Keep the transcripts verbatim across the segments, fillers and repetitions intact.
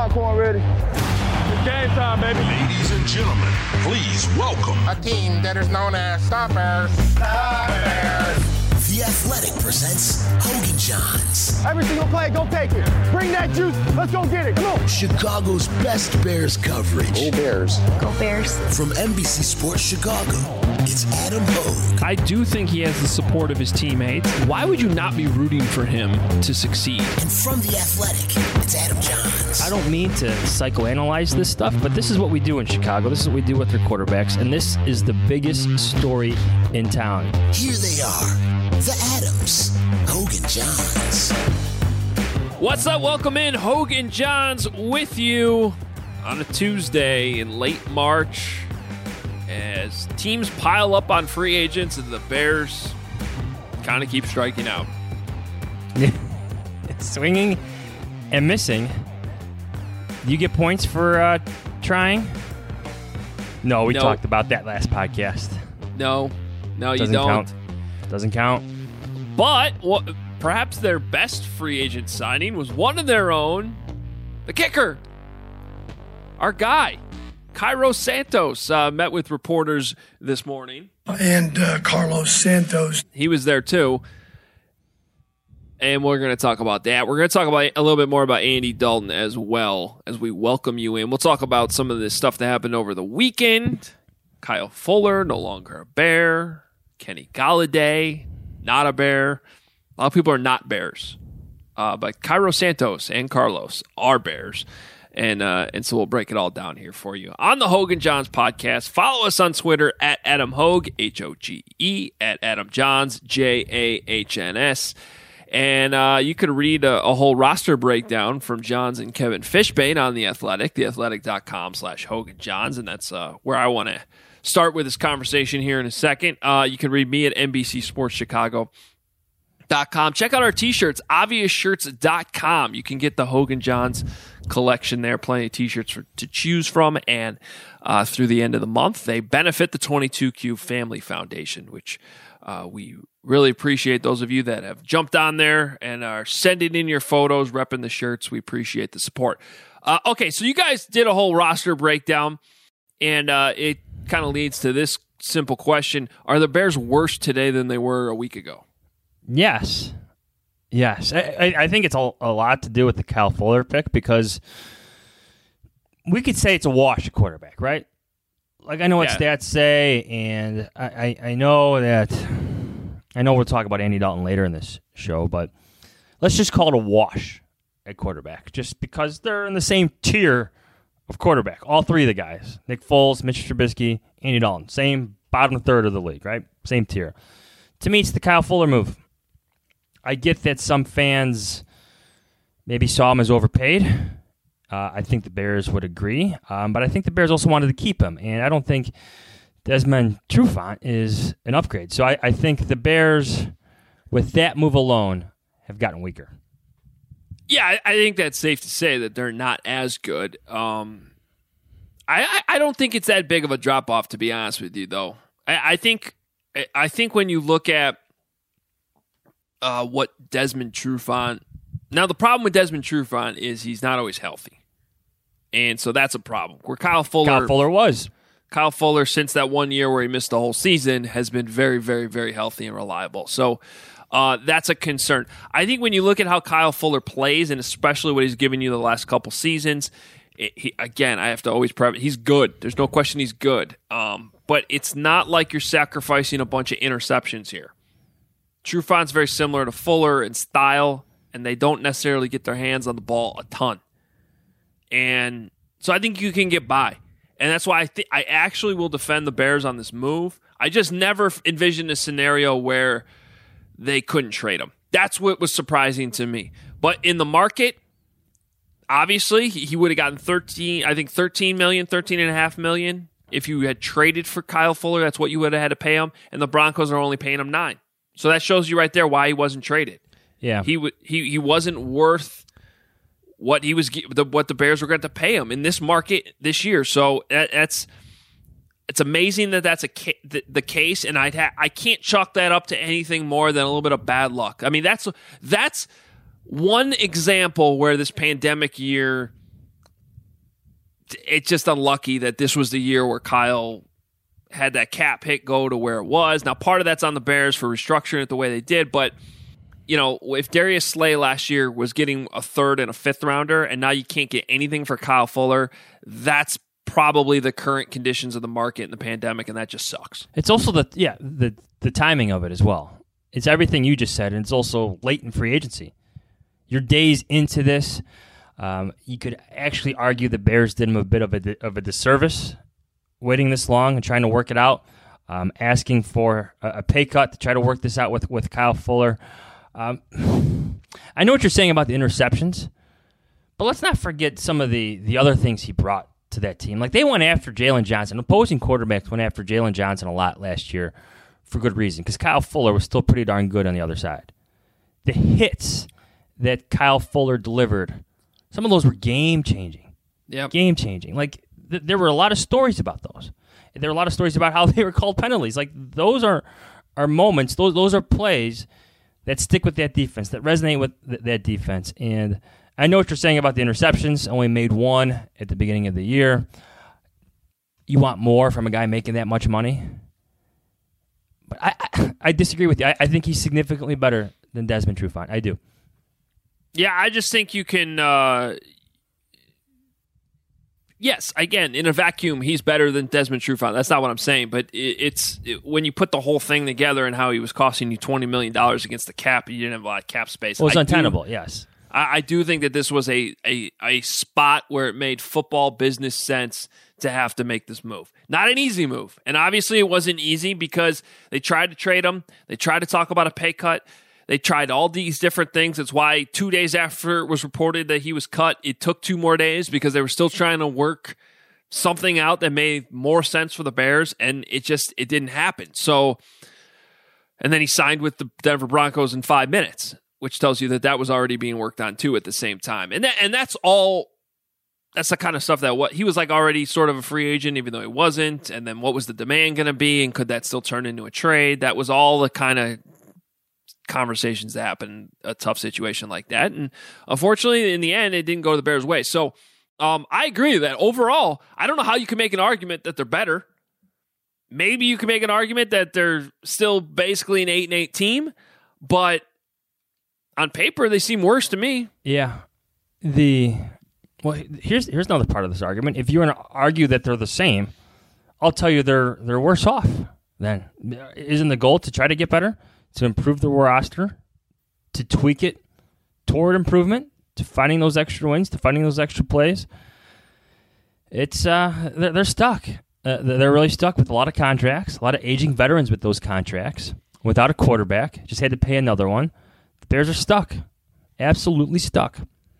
popcorn ready. It's game time, baby. Ladies and gentlemen, please welcome a team that is known as Stop Bears. Stop Bears. The Athletic presents Hogan Johns. Every single play, go take it. Bring that juice. Let's go get it. Come on. Chicago's best Bears coverage. Go Bears. Go Bears. From N B C Sports Chicago, it's Adam Hogue. I do think he has the support of his teammates. Why would you not be rooting for him to succeed? And from The Athletic, it's Adam Johns. I don't mean to psychoanalyze this stuff, but this is what we do in Chicago. This is what we do with their quarterbacks, and this is the biggest story in town. Here they are, the Adams, Hogan Johns. What's up? Welcome in. Hogan Johns with you on a Tuesday in late March as teams pile up on free agents and the Bears kind of keep striking out. Swinging and missing. You get points for uh, trying? No, we no. talked about that last podcast. No, no, Doesn't you don't. Count. Doesn't count. But what, perhaps their best free agent signing was one of their own, the kicker, our guy, Cairo Santos, uh, met with reporters this morning. And uh, Carlos Santos. He was there too. And we're going to talk about that. We're going to talk about a little bit more about Andy Dalton as well as we welcome you in. We'll talk about some of this stuff that happened over the weekend. Kyle Fuller, no longer a Bear. Kenny Golladay, not a Bear. A lot of people are not Bears. Uh, but Cairo Santos and Carlos are Bears. And uh, and so we'll break it all down here for you on the Hogan Johns podcast. Follow us on Twitter at Adam Hogue, H O G E, at Adam Johns, J A H N S. And uh, you could read a, a whole roster breakdown from Johns and Kevin Fishbane on The Athletic, theathletic.com slash Hogan Johns. And that's uh, where I want to start with this conversation here in a second. Uh, you can read me at N B C Sports Chicago dot com. Check out our t-shirts, obvious shirts dot com. You can get the Hogan Johns collection there, plenty of t-shirts for, to choose from, and uh, through the end of the month, they benefit the twenty-two Q Family Foundation, which uh, we really appreciate those of you that have jumped on there and are sending in your photos, repping the shirts. We appreciate the support. Uh, okay, so you guys did a whole roster breakdown, and uh, it kind of leads to this simple question. Are the Bears worse today than they were a week ago? Yes. Yes. I, I, I think it's a, a lot to do with the Kyle Fuller pick because we could say it's a wash at quarterback, right? Like, I know what yeah. stats say, and I, I, I know that I know we'll talk about Andy Dalton later in this show, but let's just call it a wash at quarterback just because they're in the same tier of quarterback. All three of the guys, Nick Foles, Mitch Trubisky, Andy Dalton, same bottom third of the league, right? Same tier. To me, it's the Kyle Fuller move. I get that some fans maybe saw him as overpaid. Uh, I think the Bears would agree, um, but I think the Bears also wanted to keep him, and I don't think Desmond Trufant is an upgrade. So I, I think the Bears, with that move alone, have gotten weaker. Yeah, I, I think that's safe to say that they're not as good. Um, I, I, I don't think it's that big of a drop-off, to be honest with you, though. I, I think I think when you look at uh, what Desmond Trufant... Now, the problem with Desmond Trufant is he's not always healthy. And so that's a problem. Where Kyle Fuller... Kyle Fuller was. Kyle Fuller, since that one year where he missed the whole season, has been very, very, very healthy and reliable. So uh, that's a concern. I think when you look at how Kyle Fuller plays, and especially what he's given you the last couple seasons, it, he, again, I have to always prep he's good. There's no question he's good. Um, but it's not like you're sacrificing a bunch of interceptions here. Trufant's very similar to Fuller in style, and they don't necessarily get their hands on the ball a ton. And so I think you can get by. And that's why I think I actually will defend the Bears on this move. I just never envisioned a scenario where they couldn't trade him. That's what was surprising to me. But in the market, obviously, he would have gotten thirteen, I think thirteen million, thirteen and a half million. If you had traded for Kyle Fuller, that's what you would have had to pay him. And the Broncos are only paying him nine. So that shows you right there why he wasn't traded. Yeah. He w- he he wasn't worth what he was the, what the Bears were going to pay him in this market this year. So that, that's it's amazing that that's a ca- the, the case, and I ha- I can't chalk that up to anything more than a little bit of bad luck. I mean, that's that's one example where this pandemic year it's just unlucky that this was the year where Kyle had that cap hit go to where it was. Now, part of that's on the Bears for restructuring it the way they did, but you know, if Darius Slay last year was getting a third and a fifth rounder, and now you can't get anything for Kyle Fuller, that's probably the current conditions of the market in the pandemic, and that just sucks. It's also the yeah the the timing of it as well. It's everything you just said, and it's also late in free agency. You're days into this. Um, you could actually argue the Bears did him a bit of a of a disservice waiting this long and trying to work it out, um, asking for a, a pay cut to try to work this out with with Kyle Fuller. Um, I know what you're saying about the interceptions, but let's not forget some of the, the other things he brought to that team. Like, they went after Jalen Johnson. Opposing quarterbacks went after Jalen Johnson a lot last year for good reason, because Kyle Fuller was still pretty darn good on the other side. The hits that Kyle Fuller delivered, some of those were game-changing. Yep. Game-changing. Like, th- there were a lot of stories about those. There were a lot of stories about how they were called penalties. Like, those are, are moments, those those are plays that stick with that defense, that resonate with th- that defense. And I know what you're saying about the interceptions. Only made one at the beginning of the year. You want more from a guy making that much money? But I I, I disagree with you. I, I think he's significantly better than Desmond Trufant. I do. Yeah, I just think you can... Uh, yes, again, in a vacuum, he's better than Desmond Trufant. That's not what I'm saying, but it, it's it, when you put the whole thing together and how he was costing you twenty million dollars against the cap, you didn't have a lot of cap space. Well, it's I untenable, do, yes. I, I do think that this was a, a, a spot where it made football business sense to have to make this move. Not an easy move. And obviously it wasn't easy because they tried to trade him. They tried to talk about a pay cut. They tried all these different things. That's why two days after it was reported that he was cut, it took two more days because they were still trying to work something out that made more sense for the Bears, and it just it didn't happen. So, and then he signed with the Denver Broncos in five minutes, which tells you that that was already being worked on too at the same time. And that, and that's all. That's the kind of stuff that what he was like already sort of a free agent, even though he wasn't. And then what was the demand going to be, and could that still turn into a trade? That was all the kind of conversations that happen in a tough situation like that. And unfortunately, in the end, it didn't go the Bears' way. So um, I agree that overall, I don't know how you can make an argument that they're better. Maybe you can make an argument that they're still basically an eight and eight team, but on paper they seem worse to me. Yeah. The well, here's here's another part of this argument. If you want to argue that they're the same, I'll tell you they're they're worse off. Then isn't the goal to try to get better, to improve the roster, to tweak it toward improvement, to finding those extra wins, to finding those extra plays? It's uh, they're, they're stuck. Uh, they're really stuck with a lot of contracts, a lot of aging veterans with those contracts, without a quarterback. Just had to pay another one. The Bears are stuck. Absolutely stuck.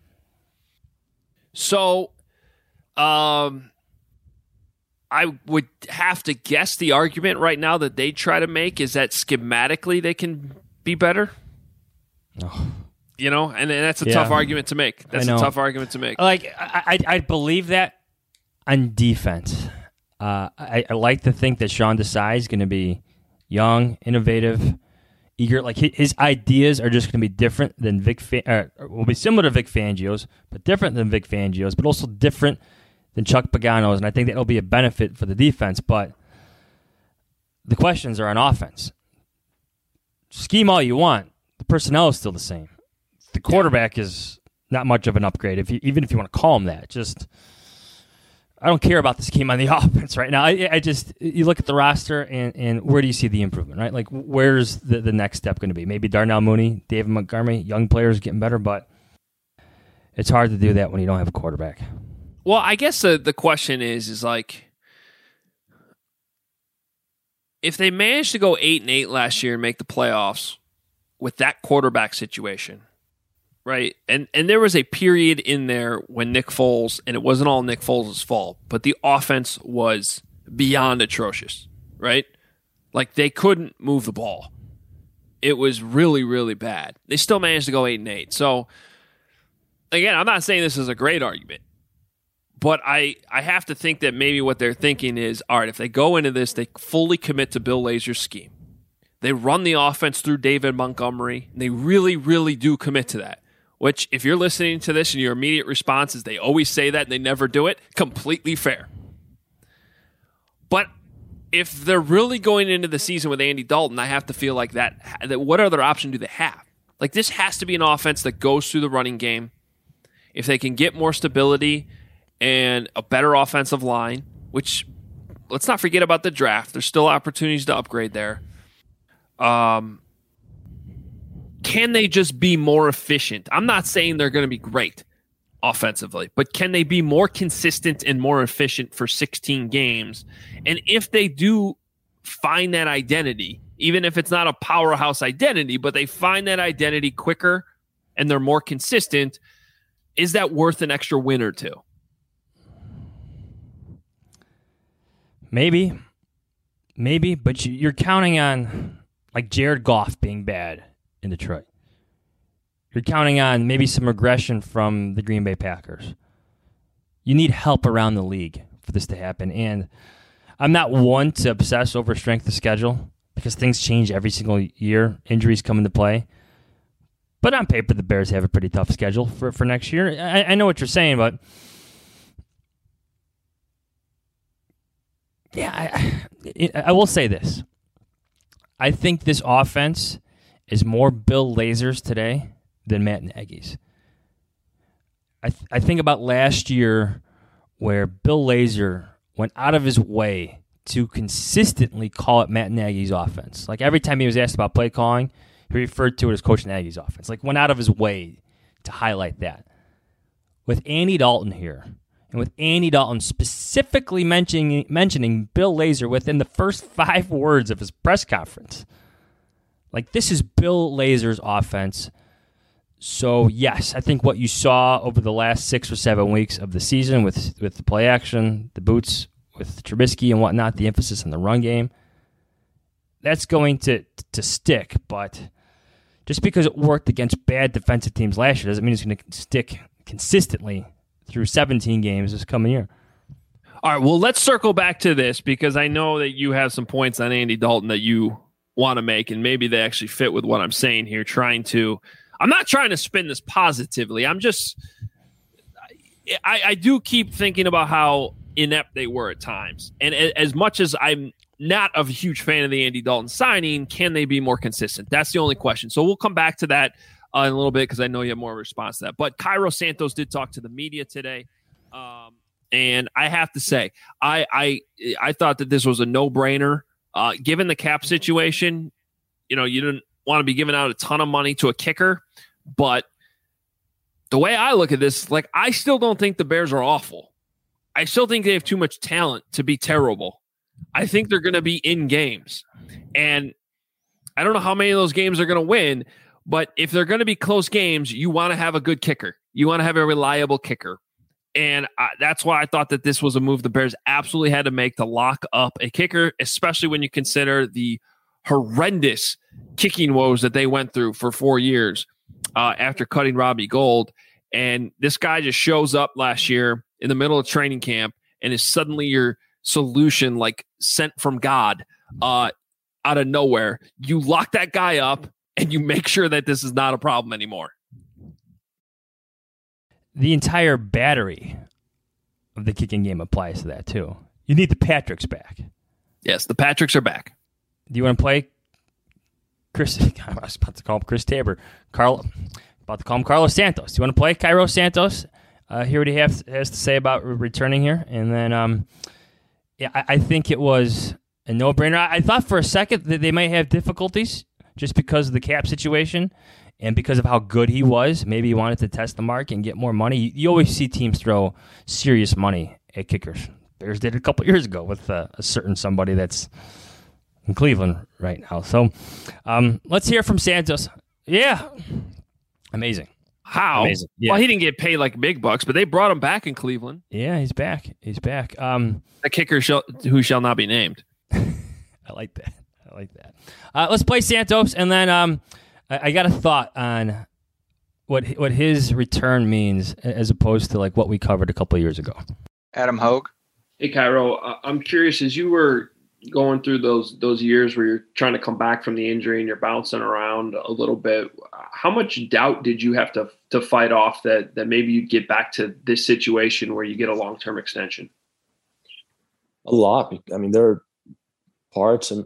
So, um, I would have to guess the argument right now that they try to make is that schematically they can be better. Oh. You know, and, and that's a Yeah. tough argument to make. That's I a know. tough argument to make. Like I, I, I believe that on defense. Uh, I, I like to think that Sean Desai is going to be young, innovative, eager. Like his, his ideas are just going to be different than Vic. Fa- uh, will be similar to Vic Fangio's, but different than Vic Fangio's, but also different than Chuck Pagano's. And I think that'll be a benefit for the defense. But the questions are on offense. Scheme all you want. The personnel is still the same. The quarterback is not much of an upgrade, if you, even if you want to call him that. Just, I don't care about the scheme on the offense right now. I, I just, you look at the roster, and, and where do you see the improvement, right? Like, where's the, the next step going to be? Maybe Darnell Mooney, David Montgomery, young players getting better, but it's hard to do that when you don't have a quarterback. Well, I guess the, the question is, is like, if they managed to go eight and eight last year and make the playoffs with that quarterback situation, right? And and there was a period in there when Nick Foles, and it wasn't all Nick Foles' fault, but the offense was beyond atrocious, right? Like, they couldn't move the ball. It was really, really bad. They still managed to go eight and eight. So, again, I'm not saying this is a great argument, but I, I have to think that maybe what they're thinking is, all right, if they go into this, they fully commit to Bill Lazor's scheme. They run the offense through David Montgomery, and they really, really do commit to that. which if you're listening to this and your immediate response is they always say that and they never do it, completely fair. But if they're really going into the season with Andy Dalton, I have to feel like that, that what other option do they have? Like, this has to be an offense that goes through the running game. If they can get more stability and a better offensive line, which let's not forget about the draft. There's still opportunities to upgrade there. Um, can they just be more efficient? I'm not saying they're going to be great offensively, but can they be more consistent and more efficient for sixteen games? And if they do find that identity, even if it's not a powerhouse identity, but they find that identity quicker and they're more consistent, is that worth an extra win or two? Maybe. Maybe, but you're counting on like Jared Goff being bad in Detroit. You're counting on maybe some regression from the Green Bay Packers. You need help around the league for this to happen. And I'm not one to obsess over strength of schedule because things change every single year. Injuries come into play. But on paper, the Bears have a pretty tough schedule for, for next year. I, I know what you're saying, but yeah, I, it, I will say this. I think this offense is more Bill Lazor's today than Matt Nagy's. I th- I think about last year where Bill Lazor went out of his way to consistently call it Matt Nagy's offense. Like every time he was asked about play calling, he referred to it as Coach Nagy's offense. Like went out of his way to highlight that. With Andy Dalton here, and with Andy Dalton specifically mentioning mentioning Bill Lazor within the first five words of his press conference. Like, this is Bill Lazor's offense. So, yes, I think what you saw over the last six or seven weeks of the season with, with the play action, the boots with Trubisky and whatnot, the emphasis on the run game, that's going to, to stick. But just because it worked against bad defensive teams last year doesn't mean it's going to stick consistently through seventeen games this coming year. All right, well, let's circle back to this because I know that you have some points on Andy Dalton that you want to make, and maybe they actually fit with what I'm saying here. Trying to, I'm not trying to spin this positively. I'm just, I, I do keep thinking about how inept they were at times. And as much as I'm not a huge fan of the Andy Dalton signing, can they be more consistent? That's the only question. So we'll come back to that uh, in a little bit because I know you have more response to that. But Cairo Santos did talk to the media today. Um, and I have to say, I, I, I thought that this was a no-brainer. Uh, given the cap situation, you know, you didn't want to be giving out a ton of money to a kicker, but the way I look at this, like, I still don't think the Bears are awful. I still think they have too much talent to be terrible. I think they're going to be in games, and I don't know how many of those games are going to win, but if they're going to be close games, you want to have a good kicker. You want to have a reliable kicker. And I, that's why I thought that this was a move the Bears absolutely had to make to lock up a kicker, especially when you consider the horrendous kicking woes that they went through for four years uh, after cutting Robbie Gould. And this guy just shows up last year in the middle of training camp and is suddenly your solution, like sent from God uh, out of nowhere. You lock that guy up and you make sure that this is not a problem anymore. The entire battery of the kicking game applies to that, too. You need the Patricks back. Yes, the Patricks are back. Do you want to play Chris? I was about to call him Chris Tabor. Carl, about to call him Carlos Santos. Do you want to play Cairo Santos? Uh, hear what he has, has to say about returning here. And then, um, yeah, I, I think it was a no-brainer. I, I thought for a second that they might have difficulties just because of the cap situation. And because of how good he was, maybe he wanted to test the mark and get more money. You, you always see teams throw serious money at kickers. Bears did it a couple years ago with uh, a certain somebody that's in Cleveland right now. So um, let's hear from Santos. Yeah. Amazing. How? Amazing. Yeah. Well, he didn't get paid like big bucks, but they brought him back in Cleveland. Yeah, he's back. He's back. Um, a kicker shall, who shall not be named. I like that. I like that. Uh, let's play Santos, and then um, – I got a thought on what what his return means as opposed to like what we covered a couple of years ago. Adam Hogue. Hey, Cairo, uh, I'm curious, as you were going through those those years where you're trying to come back from the injury and you're bouncing around a little bit, how much doubt did you have to to fight off that that maybe you'd get back to this situation where you get a long-term extension? A lot. I mean, there are parts of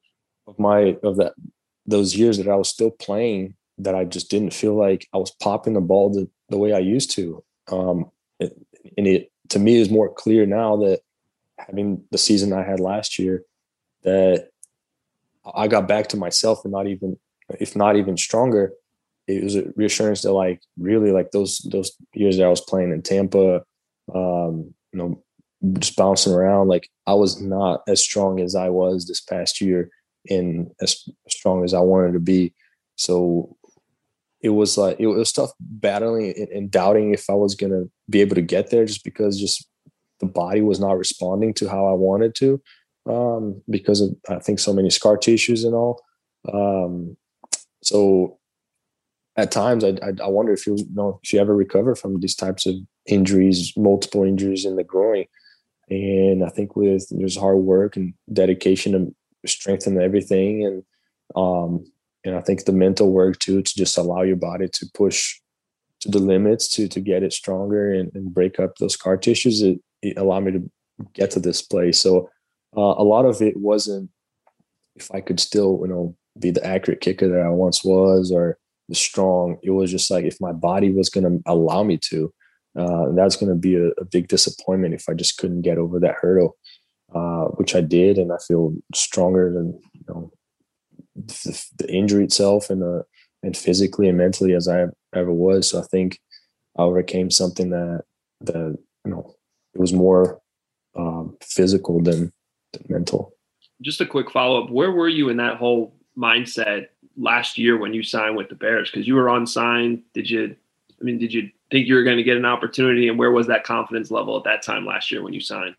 my of that those years that I was still playing that I just didn't feel like I was popping the ball the, the way I used to. Um, it, and it to me is more clear now that having the season I had last year, that I got back to myself and not even, if not even stronger. It was a reassurance that like really like those those years that I was playing in Tampa, um, you know, just bouncing around, like I was not as strong as I was this past year and as strong as I wanted to be. So it was like it was tough battling and, and doubting if I was gonna be able to get there, just because just the body was not responding to how I wanted to, um, because of I think so many scar tissues and all. Um, so at times I, I I wonder if you, you know if you ever recover from these types of injuries, multiple injuries in the groin. And I think with just hard work and dedication and strength and everything, and um, and I think the mental work too, to just allow your body to push to the limits to to get it stronger and, and break up those scar tissues, it, it allowed me to get to this place. So uh, a lot of it wasn't if I could still, you know, be the accurate kicker that I once was or the strong. It was just like if my body was going to allow me to. Uh, and that's going to be a, a big disappointment if I just couldn't get over that hurdle, uh, which I did, and I feel stronger than you know the, the injury itself, and uh, and physically and mentally as I ever was. So I think I overcame something that that you know it was more um, physical than, than mental. Just a quick follow up: where were you in that whole mindset last year when you signed with the Bears? Because you were unsigned. Did you? I mean, did you think you were going to get an opportunity, and where was that confidence level at that time last year when you signed?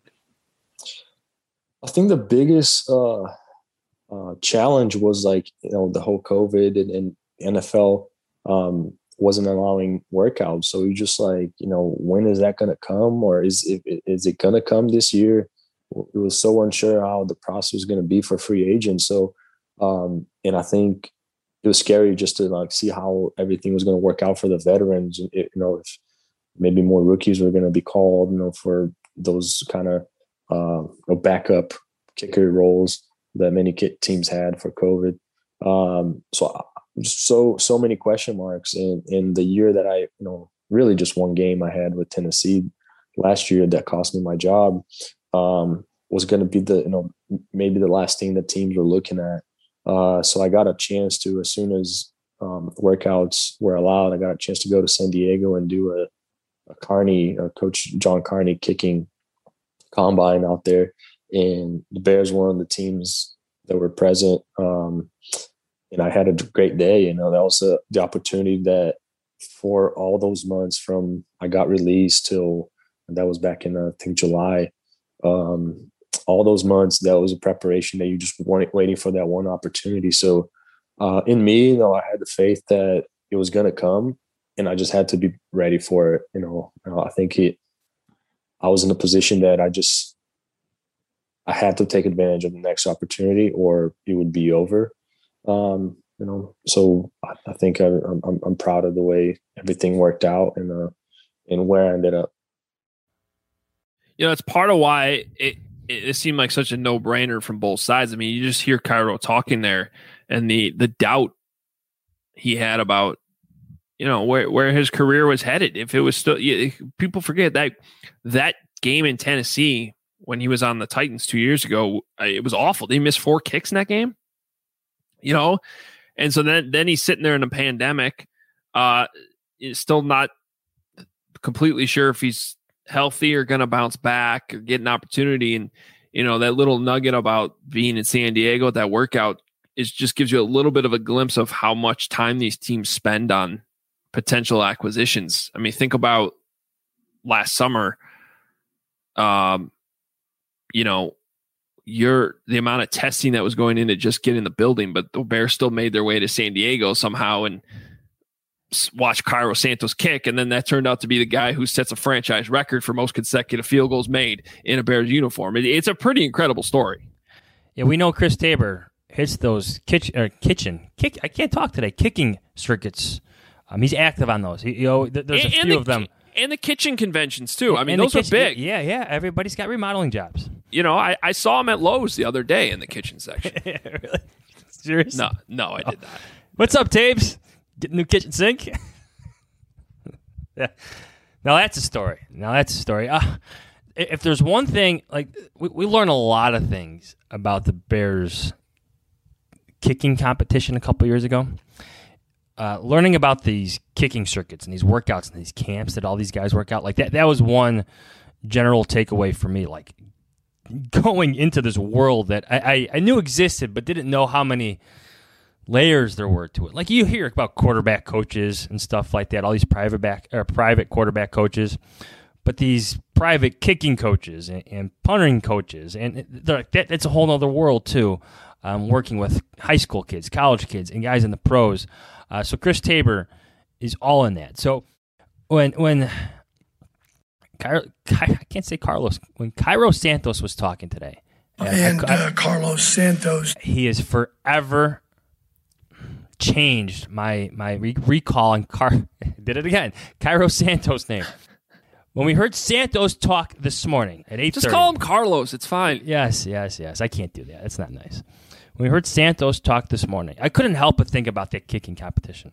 I think the biggest uh, uh, challenge was like, you know, the whole COVID and, and N F L um, wasn't allowing workouts. So you just like, you know, when is that going to come, or is it, is it going to come this year? It was so unsure how the process was going to be for free agents. So, um, and I think it was scary just to like see how everything was going to work out for the veterans. It, you know, if maybe more rookies were going to be called, you know, for those kind of uh, you know, backup kicker roles that many teams had for COVID. Um, so, just so so many question marks. In in the year that I, you know, really just one game I had with Tennessee last year that cost me my job, um, was going to be the you know maybe the last thing that teams were looking at. Uh, so I got a chance to, as soon as um, workouts were allowed, I got a chance to go to San Diego and do a, a Carney, a Coach John Carney kicking combine out there. And the Bears were one of the teams that were present. Um, and I had a great day. You know, that was a, the opportunity that for all those months from I got released till, and that was back in, uh, I think, July. Um, all those months, that was a preparation that you just weren't waiting for that one opportunity. So uh, in me, you know, I had the faith that it was going to come, and I just had to be ready for it. You know, uh, I think it, I was in a position that I just, I had to take advantage of the next opportunity or it would be over. Um, you know, so I, I think I, I'm, I'm proud of the way everything worked out and, uh, and where I ended up. You know, it's part of why it, it seemed like such a no-brainer from both sides. I mean, you just hear Cairo talking there, and the the doubt he had about, you know, where where his career was headed. If it was still, you, people forget that that game in Tennessee when he was on the Titans two years ago, it was awful. He missed four kicks in that game, you know, and so then then he's sitting there in a pandemic, uh, still not completely sure if he's healthy or going to bounce back or get an opportunity. And, you know, that little nugget about being in San Diego, that workout is just gives you a little bit of a glimpse of how much time these teams spend on potential acquisitions. I mean, think about last summer, um, you know, your, the amount of testing that was going into just getting the building, but the Bears still made their way to San Diego somehow and watch Cairo Santos kick, and then that turned out to be the guy who sets a franchise record for most consecutive field goals made in a Bears uniform. It, it's a pretty incredible story. Yeah, we know Chris Tabor hits those kitchen, uh, kitchen kick. I can't talk today. Kicking circuits. Um, he's active on those. He, you know, th- there's and, a few and the, of them. And the kitchen conventions, too. I mean, And those the are kitchen, big. Yeah, yeah. Everybody's got remodeling jobs. You know, I, I saw him at Lowe's the other day in the kitchen section. Really? Serious? No, no, I did not. What's up, Taves? Get a new kitchen sink? Yeah. Now that's a story. Now that's a story. Uh, if there's one thing, like we, we learn a lot of things about the Bears kicking competition a couple years ago. Uh, learning about these kicking circuits and these workouts and these camps that all these guys work out, like that, that was one general takeaway for me. Like going into this world that I, I, I knew existed, but didn't know how many layers there were to it. Like you hear about quarterback coaches and stuff like that, all these private back or private quarterback coaches, but these private kicking coaches and, and punting coaches, and that, that's a whole other world too. Um, working with high school kids, college kids, and guys in the pros. Uh, so Chris Tabor is all in that. So when when Ky- Ky- I can't say Carlos when Cairo Santos was talking today, and I, I, uh, Carlos Santos, he has forever changed my my re- recall and Car did it again. Cairo Santos' name. When we heard Santos talk this morning at eight thirty, Just call him Carlos. It's fine. Yes, yes, yes. I can't do that. That's not nice. When we heard Santos talk this morning, I couldn't help but think about that kicking competition.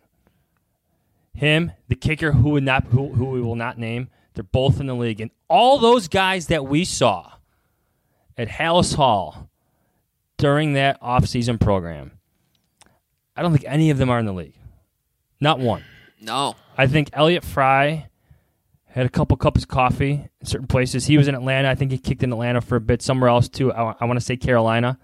Him, the kicker who would not, who, who we will not name, they're both in the league, and all those guys that we saw at Hallis Hall during that offseason program, I don't think any of them are in the league. Not one. No. I think Elliott Fry had a couple cups of coffee in certain places. He was in Atlanta. I think he kicked in Atlanta for a bit. Somewhere else, too. I, I want to say Carolina.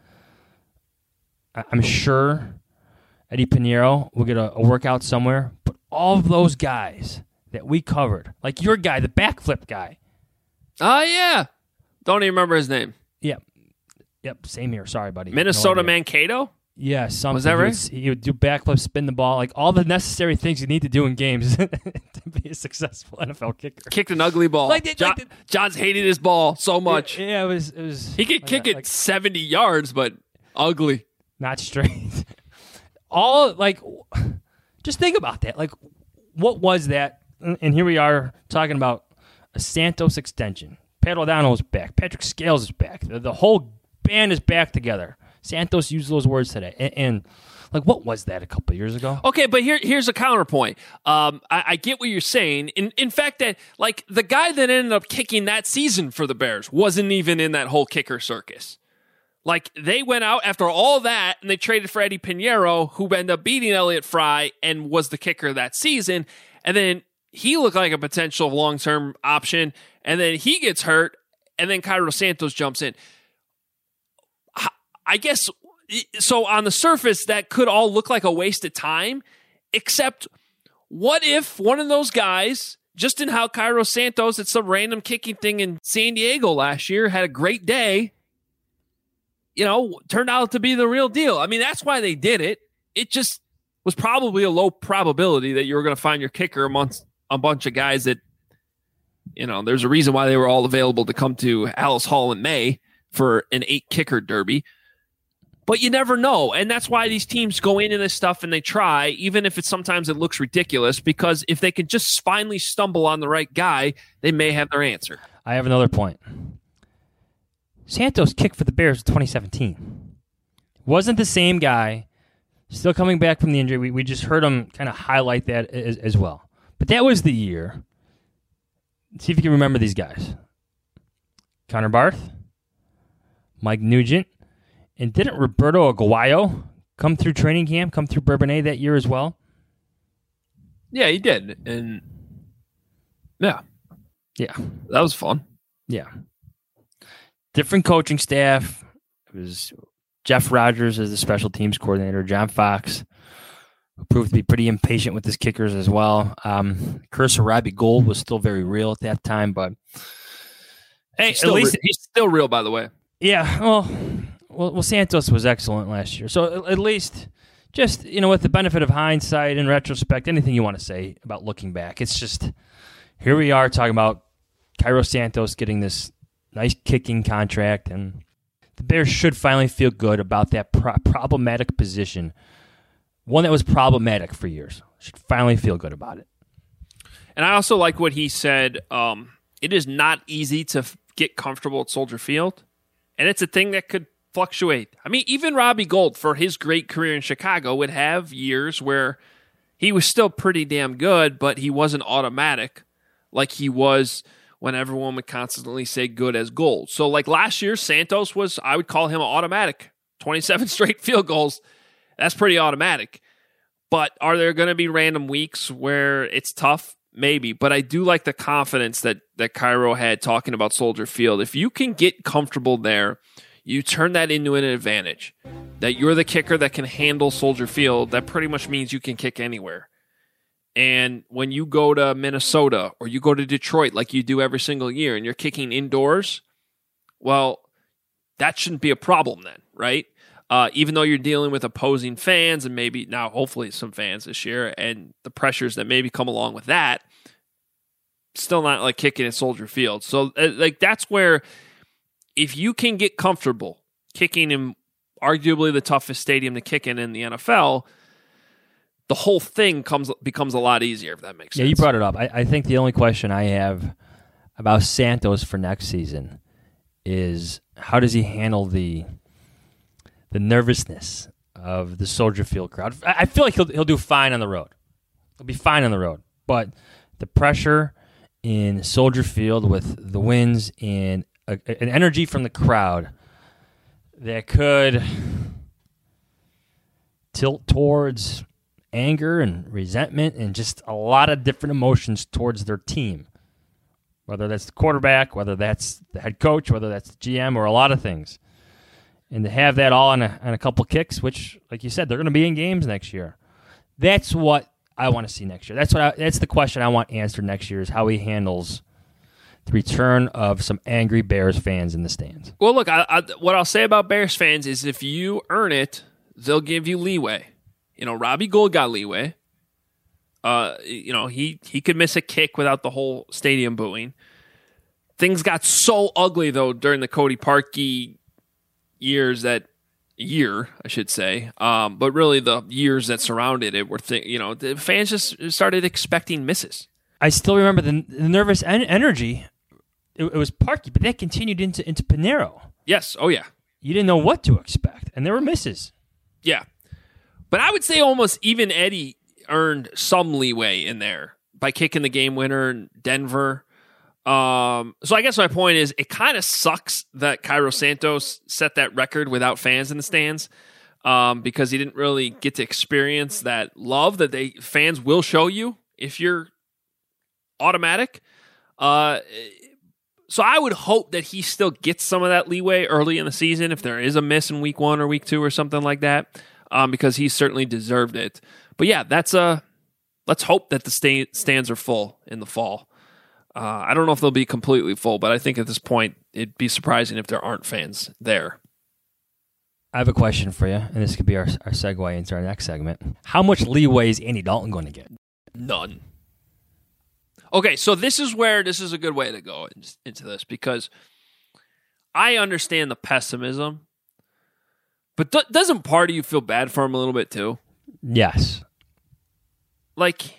I, I'm sure Eddie Pinheiro will get a, a workout somewhere. But all of those guys that we covered, like your guy, the backflip guy. Oh, yeah. Don't even remember his name. Yep. Yep, same here. Sorry, buddy. Minnesota no Mankato? Yeah, something. Was that right? He would, he would do backflips, spin the ball, like all the necessary things you need to do in games to be a successful N F L kicker. Kicked an ugly ball. Like the- John, like the- John's hated his ball so much. Yeah, yeah, it was. It was. He could like kick that, it like, seventy yards, but ugly. not straight. All like, just think about that. Like, what was that? And here we are talking about a Santos extension. Pat O'Donnell's back. Patrick Scales is back. The, the whole band is back together. Santos used those words today. And, and like, what was that a couple of years ago? Okay, but here, here's a counterpoint. Um, I, I get what you're saying. In, in fact, that like the guy that ended up kicking that season for the Bears wasn't even in that whole kicker circus. Like, they went out after all that, and they traded for Eddie Pinheiro, who ended up beating Elliott Fry and was the kicker that season. And then he looked like a potential long-term option, and then he gets hurt, and then Cairo Santos jumps in. I guess, so on the surface, that could all look like a waste of time, except what if one of those guys, just in how Cairo Santos at some random kicking thing in San Diego last year had a great day, you know, turned out to be the real deal. I mean, that's why they did it. It just was probably a low probability that you were going to find your kicker amongst a bunch of guys that, you know, there's a reason why they were all available to come to Hallis Hall in May for an eight kicker derby. But you never know, and that's why these teams go into this stuff and they try, even if it's sometimes it looks ridiculous, because if they can just finally stumble on the right guy, they may have their answer. I have another point. Santos kicked for the Bears in twenty seventeen. Wasn't the same guy, still coming back from the injury. We, we just heard him kind of highlight that as, as well. But that was the year. See if you can remember these guys. Connor Barth, Mike Nugent, and didn't Roberto Aguayo come through training camp, come through Bourbonnais that year as well? Yeah, he did. And yeah. Yeah. That was fun. Yeah. Different coaching staff. It was Jeff Rogers as the special teams coordinator, John Fox, who proved to be pretty impatient with his kickers as well. Um, curse of Robbie Gould was still very real at that time, but hey, he's at least re- he's still real, by the way. Yeah, well, well, well, Santos was excellent last year. So at least, just, you know, with the benefit of hindsight and retrospect, anything you want to say about looking back, it's just, here we are talking about Cairo Santos getting this nice kicking contract, and the Bears should finally feel good about that pro- problematic position one that was problematic for years. Should finally feel good about it. And I also like what he said. Um, it is not easy to f- get comfortable at Soldier Field, and it's a thing that could fluctuate. I mean, even Robbie Gould, for his great career in Chicago, would have years where he was still pretty damn good, but he wasn't automatic like he was when everyone would constantly say good as Gould. So like last year, Santos was, I would call him automatic. twenty-seven straight field goals. That's pretty automatic. But are there going to be random weeks where it's tough? Maybe. But I do like the confidence that, that Cairo had talking about Soldier Field. If you can get comfortable there, you turn that into an advantage. That you're the kicker that can handle Soldier Field, that pretty much means you can kick anywhere. And when you go to Minnesota or you go to Detroit like you do every single year and you're kicking indoors, well, that shouldn't be a problem then, right? Uh, even though you're dealing with opposing fans and maybe now hopefully some fans this year and the pressures that maybe come along with that, still not like kicking at Soldier Field. So uh, like that's where if you can get comfortable kicking in arguably the toughest stadium to kick in in the N F L, the whole thing comes becomes a lot easier, if that makes sense. Yeah, you brought it up. I, I think the only question I have about Santos for next season is how does he handle the the nervousness of the Soldier Field crowd. I feel like he'll he'll do fine on the road. He'll be fine on the road. But the pressure in Soldier Field with the wins and a, an energy from the crowd that could tilt towards anger and resentment and just a lot of different emotions towards their team. Whether that's the quarterback, whether that's the head coach, whether that's the G M, or a lot of things. And to have that all on a, on a couple kicks, which, like you said, they're going to be in games next year. That's what I want to see next year. That's what. I, that's the question I want answered next year is how he handles the return of some angry Bears fans in the stands. Well, look, I, I, what I'll say about Bears fans is if you earn it, they'll give you leeway. You know, Robbie Gould got leeway. Uh, you know, he, he could miss a kick without the whole stadium booing. Things got so ugly, though, during the Cody Parkey years that year, I should say, um, but really the years that surrounded it were, th- you know, the fans just started expecting misses. I still remember the, the nervous en- energy. It, it was Parkey, but that continued into into Pinero. Yes, oh yeah. You didn't know what to expect, and there were misses. Yeah, but I would say almost even Eddie earned some leeway in there by kicking the game winner in Denver. Um, so I guess my point is it kind of sucks that Cairo Santos set that record without fans in the stands, um, because he didn't really get to experience that love that they fans will show you if you're automatic. Uh, so I would hope that he still gets some of that leeway early in the season if there is a miss in week one or week two or something like that, um, because he certainly deserved it. But yeah, that's a, let's hope that the sta- stands are full in the fall. Uh, I don't know if they'll be completely full, but I think at this point, it'd be surprising if there aren't fans there. I have a question for you, and this could be our, our segue into our next segment. How much leeway is Andy Dalton going to get? None. Okay, so this is where this is a good way to go into this, because I understand the pessimism, but th- doesn't part of you feel bad for him a little bit too? Yes. Like,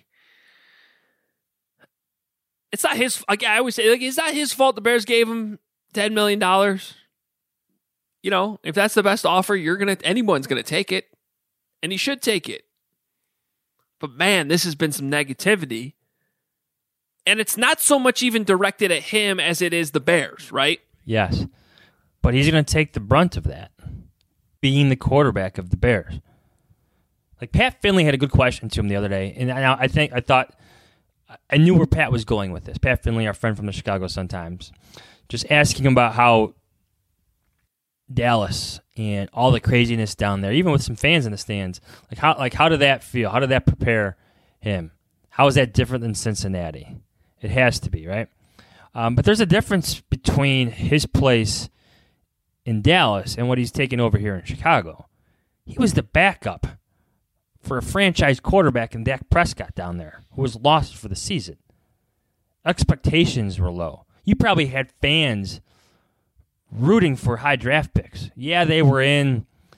it's not his. Like I always say, like it's not his fault. The Bears gave him ten million dollars. You know, if that's the best offer, you're gonna anyone's gonna take it, and he should take it. But man, this has been some negativity, and it's not so much even directed at him as it is the Bears, right? Yes, but he's gonna take the brunt of that, being the quarterback of the Bears. Like Pat Finley had a good question to him the other day, and I, I think I thought. I knew where Pat was going with this. Pat Finley, our friend from the Chicago Sun-Times, just asking him about how Dallas and all the craziness down there, even with some fans in the stands, like how like how did that feel? How did that prepare him? How is that different than Cincinnati? It has to be, right? Um, but there's a difference between his place in Dallas and what he's taken over here in Chicago. He was the backup for a franchise quarterback in Dak Prescott down there, who was lost for the season. Expectations were low. You probably had fans rooting for high draft picks. Yeah, they were in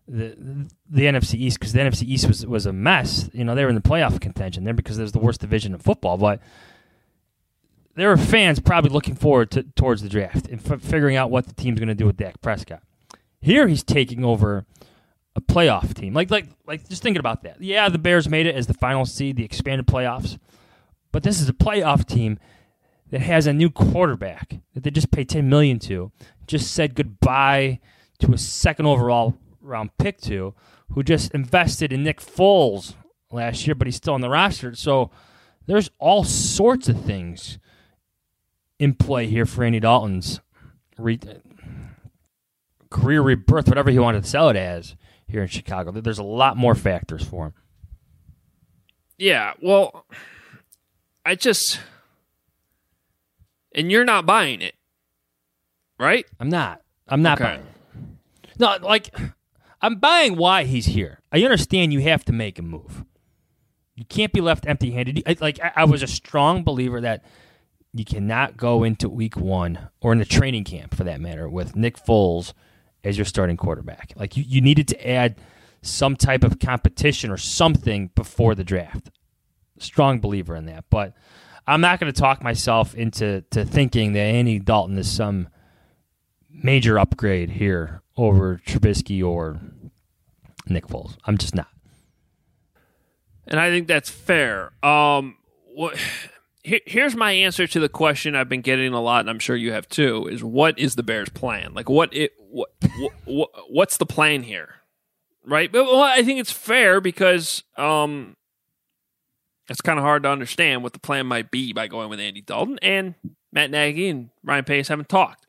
the the N F C East, because the N F C East was was a mess. You know, they were in the playoff contention there because it was the worst division in football. But there were fans probably looking forward to towards the draft and f- figuring out what the team's going to do with Dak Prescott. Here, he's taking over a playoff team. Like like like, just thinking about that. Yeah, the Bears made it as the final seed, the expanded playoffs. But this is a playoff team that has a new quarterback that they just paid ten million dollars to, just said goodbye to a second overall round pick to, who just invested in Nick Foles last year, but he's still on the roster. So there's all sorts of things in play here for Andy Dalton's re- career rebirth, whatever he wanted to sell it as here in Chicago. There's a lot more factors for him. Yeah, well, I just... And you're not buying it, right? I'm not. I'm not okay. buying it. No, like, I'm buying why he's here. I understand you have to make a move. You can't be left empty-handed. I, like, I, I was a strong believer that you cannot go into week one, or in the training camp, for that matter, with Nick Foles as your starting quarterback. Like, you, you needed to add some type of competition or something before the draft. Strong believer in that. But I'm not going to talk myself into to thinking that Andy Dalton is some major upgrade here over Trubisky or Nick Foles. I'm just not. And I think that's fair. Um, what, here, here's my answer to the question I've been getting a lot, and I'm sure you have too, is what is the Bears' plan? Like, what it what, what what's the plan here? Right? But well, I think it's fair because um, it's kind of hard to understand what the plan might be by going with Andy Dalton, and Matt Nagy and Ryan Pace haven't talked.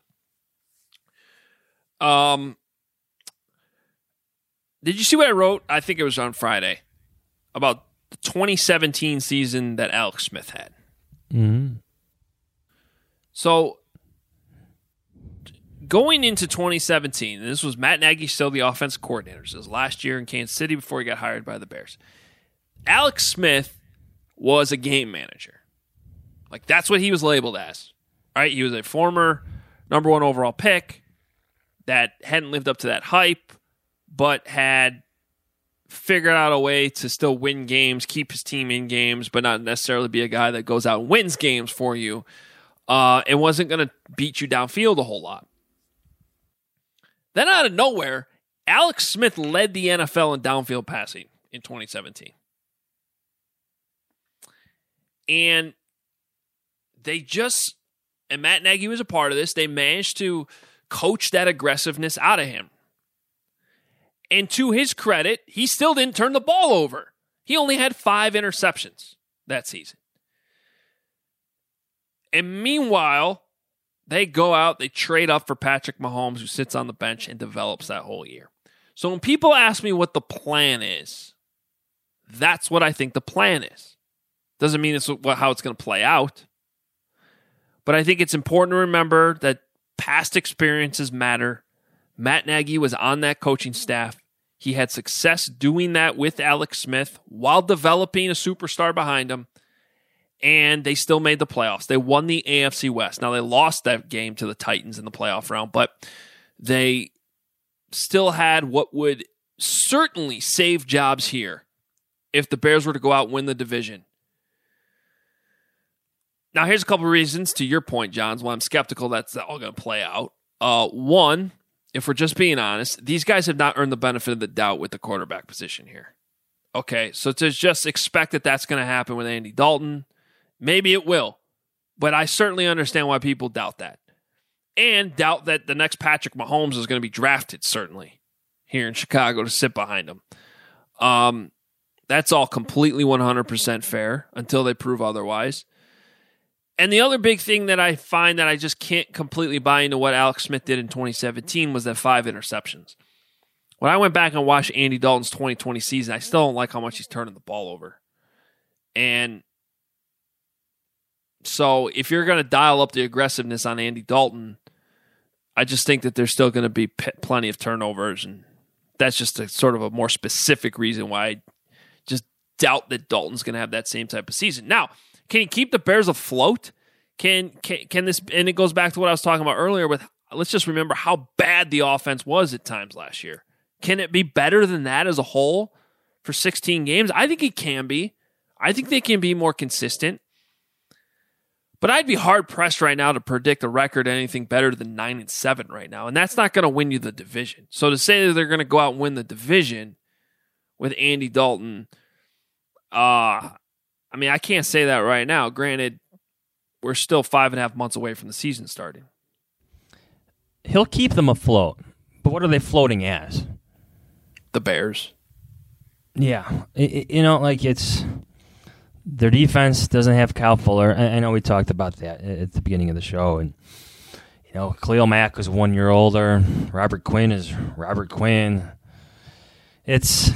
Um, did you see what I wrote? I think it was on Friday about the twenty seventeen season that Alex Smith had. Mm-hmm. So going into twenty seventeen, and this was Matt Nagy still the offensive coordinator. This was last year in Kansas City before he got hired by the Bears. Alex Smith was a game manager. Like, that's what he was labeled as. Right? He was a former number one overall pick that hadn't lived up to that hype, but had figured out a way to still win games, keep his team in games, but not necessarily be a guy that goes out and wins games for you, uh, and wasn't going to beat you downfield a whole lot. Then out of nowhere, Alex Smith led the N F L in downfield passing in twenty seventeen. And they just, and Matt Nagy was a part of this, they managed to coach that aggressiveness out of him. And to his credit, he still didn't turn the ball over. He only had five interceptions that season. And meanwhile, they go out, they trade up for Patrick Mahomes, who sits on the bench and develops that whole year. So when people ask me what the plan is, that's what I think the plan is. Doesn't mean it's how it's going to play out. But I think it's important to remember that past experiences matter. Matt Nagy was on that coaching staff. He had success doing that with Alex Smith while developing a superstar behind him. And they still made the playoffs. They won the A F C West. Now, they lost that game to the Titans in the playoff round, but they still had what would certainly save jobs here if the Bears were to go out and win the division. Now, here's a couple of reasons, to your point, Johns, why I'm skeptical that's all going to play out. Uh, one, if we're just being honest, these guys have not earned the benefit of the doubt with the quarterback position here. Okay, so to just expect that that's going to happen with Andy Dalton, maybe it will. But I certainly understand why people doubt that. And doubt that the next Patrick Mahomes is going to be drafted, certainly, here in Chicago to sit behind him. Um, that's all completely one hundred percent fair until they prove otherwise. And the other big thing that I find that I just can't completely buy into what Alex Smith did in twenty seventeen was that five interceptions. When I went back and watched Andy Dalton's twenty twenty season, I still don't like how much he's turning the ball over. And so if you're going to dial up the aggressiveness on Andy Dalton, I just think that there's still going to be p- plenty of turnovers. And that's just a sort of a more specific reason why I just doubt that Dalton's going to have that same type of season. Now, can he keep the Bears afloat? Can, can can this, and it goes back to what I was talking about earlier with, let's just remember how bad the offense was at times last year. Can it be better than that as a whole for sixteen games? I think it can be. I think they can be more consistent. But I'd be hard-pressed right now to predict a record anything better than nine and seven right now, and that's not going to win you the division. So to say that they're going to go out and win the division with Andy Dalton, uh, I mean, I can't say that right now. Granted, we're still five and a half months away from the season starting. He'll keep them afloat, but what are they floating as? The Bears. Yeah. It, it, you know, like it's... Their defense doesn't have Kyle Fuller. I, I know we talked about that at the beginning of the show. And, you know, Khalil Mack was one year older. Robert Quinn is Robert Quinn. It's...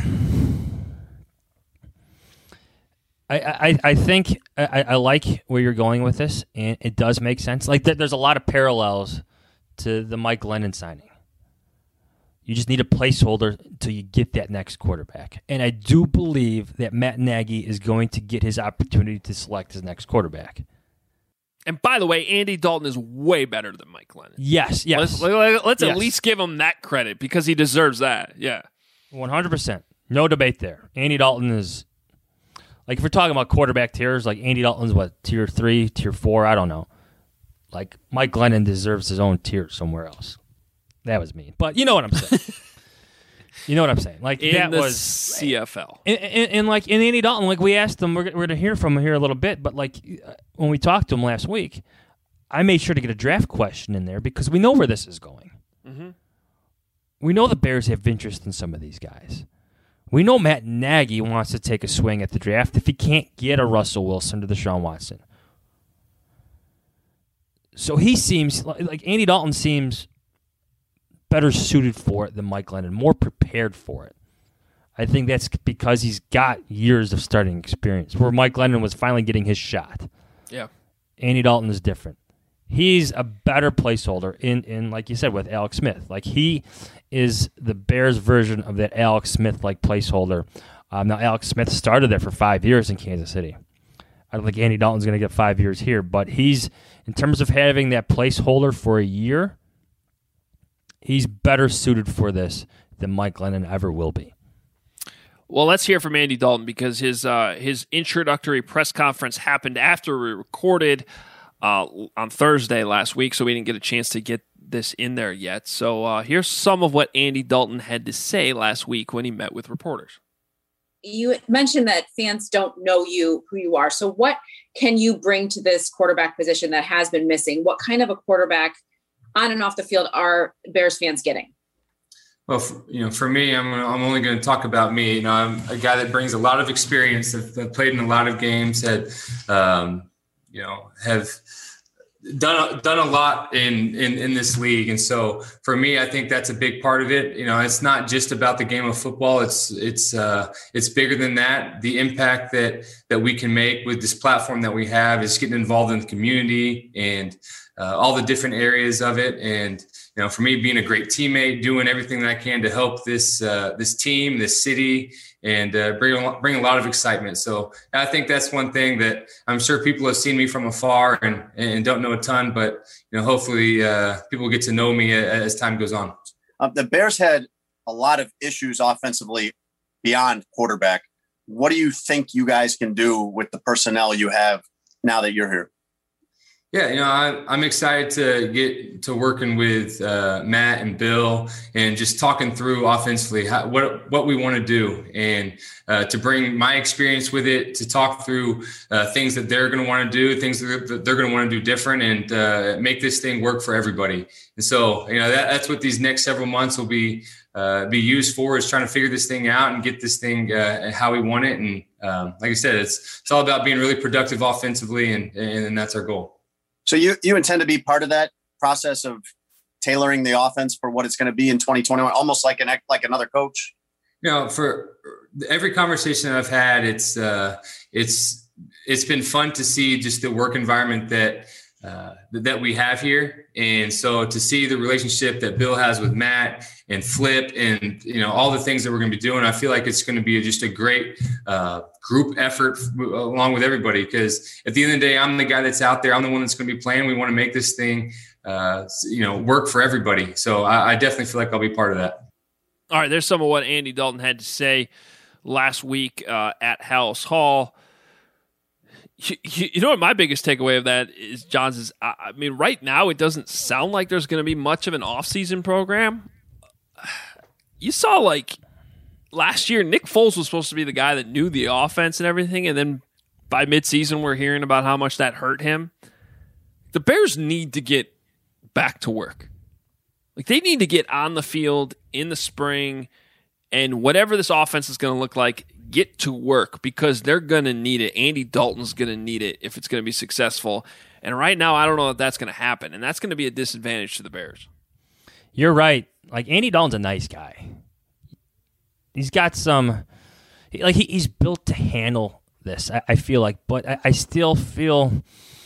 I, I, I think I, I like where you're going with this, and it does make sense. Like, there's a lot of parallels to the Mike Glennon signing. You just need a placeholder until you get that next quarterback. And I do believe that Matt Nagy is going to get his opportunity to select his next quarterback. And by the way, Andy Dalton is way better than Mike Glennon. Yes, yes. Let's, let's yes. at least give him that credit because he deserves that. Yeah. one hundred percent. No debate there. Andy Dalton is, like, if we're talking about quarterback tiers, like Andy Dalton's what, tier three, tier four? I don't know. Like, Mike Glennon deserves his own tier somewhere else. That was mean. But you know what I'm saying. You know what I'm saying. Like, in that the was C F L. And, and, and like in Andy Dalton, like we asked him, we're, we're going to hear from him here a little bit, but like when we talked to him last week, I made sure to get a draft question in there because we know where this is going. Mm-hmm. We know the Bears have interest in some of these guys. We know Matt Nagy wants to take a swing at the draft if he can't get a Russell Wilson to Deshaun Watson. So he seems, like Andy Dalton seems better suited for it than Mike Glennon, more prepared for it. I think that's because he's got years of starting experience, where Mike Glennon was finally getting his shot. Yeah. Andy Dalton is different. He's a better placeholder in, in like you said, with Alex Smith. Like, he is the Bears version of that Alex Smith-like placeholder. Um, now, Alex Smith started there for five years in Kansas City. I don't think Andy Dalton's going to get five years here, but he's, in terms of having that placeholder for a year, he's better suited for this than Mike Glennon ever will be. Well, let's hear from Andy Dalton because his uh, his introductory press conference happened after we recorded uh, on Thursday last week, so we didn't get a chance to get this in there yet. So uh, here's some of what Andy Dalton had to say last week when he met with reporters. You mentioned that fans don't know you, who you are. So what can you bring to this quarterback position that has been missing? What kind of a quarterback on and off the field are Bears fans getting? Well, for, you know, for me, I'm I'm only going to talk about me. You know, I'm a guy that brings a lot of experience. That, that played in a lot of games. Had, um, you know, have done done a lot in, in in this league. And so, for me, I think that's a big part of it. You know, it's not just about the game of football. It's it's uh, it's bigger than that. The impact that that we can make with this platform that we have is getting involved in the community and uh, all the different areas of it. And you know, for me, being a great teammate, doing everything that I can to help this uh, this team, this city, and uh, bring a, bring a lot of excitement. So I think that's one thing that I'm sure people have seen me from afar and and don't know a ton, but you know, hopefully uh, people get to know me as time goes on. Um, the Bears had a lot of issues offensively beyond quarterback. What do you think you guys can do with the personnel you have now that you're here? Yeah, you know, I, I'm excited to get to working with uh, Matt and Bill and just talking through offensively how, what what we want to do and uh, to bring my experience with it, to talk through uh, things that they're going to want to do, things that they're going to want to do different, and uh, make this thing work for everybody. And so, you know, that, that's what these next several months will be uh, be used for, is trying to figure this thing out and get this thing uh, how we want it. And um, like I said, it's it's all about being really productive offensively, and and that's our goal. So you, you intend to be part of that process of tailoring the offense for what it's going to be in twenty twenty-one, almost like an like another coach? You know, for every conversation that I've had, it's uh, it's it's been fun to see just the work environment that uh, that we have here, and so to see the relationship that Bill has with Matt and Flip, and you know, all the things that we're going to be doing, I feel like it's going to be just a great uh, group effort along with everybody. Because at the end of the day, I'm the guy that's out there. I'm the one that's going to be playing. We want to make this thing, uh, you know, work for everybody. So I, I definitely feel like I'll be part of that. All right, there's some of what Andy Dalton had to say last week uh, at Halas Hall. You, you know what my biggest takeaway of that is, Johns, is I, I mean, right now it doesn't sound like there's going to be much of an offseason program. You saw, like, last year, Nick Foles was supposed to be the guy that knew the offense and everything, and then by midseason we're hearing about how much that hurt him. The Bears need to get back to work. Like, they need to get on the field in the spring, and whatever this offense is going to look like, get to work, because they're going to need it. Andy Dalton's going to need it if it's going to be successful. And right now, I don't know if that's going to happen, and that's going to be a disadvantage to the Bears. You're right. Like, Andy Dalton's a nice guy. He's got some, like, he, he's built to handle this, I, I feel like, but I, I still feel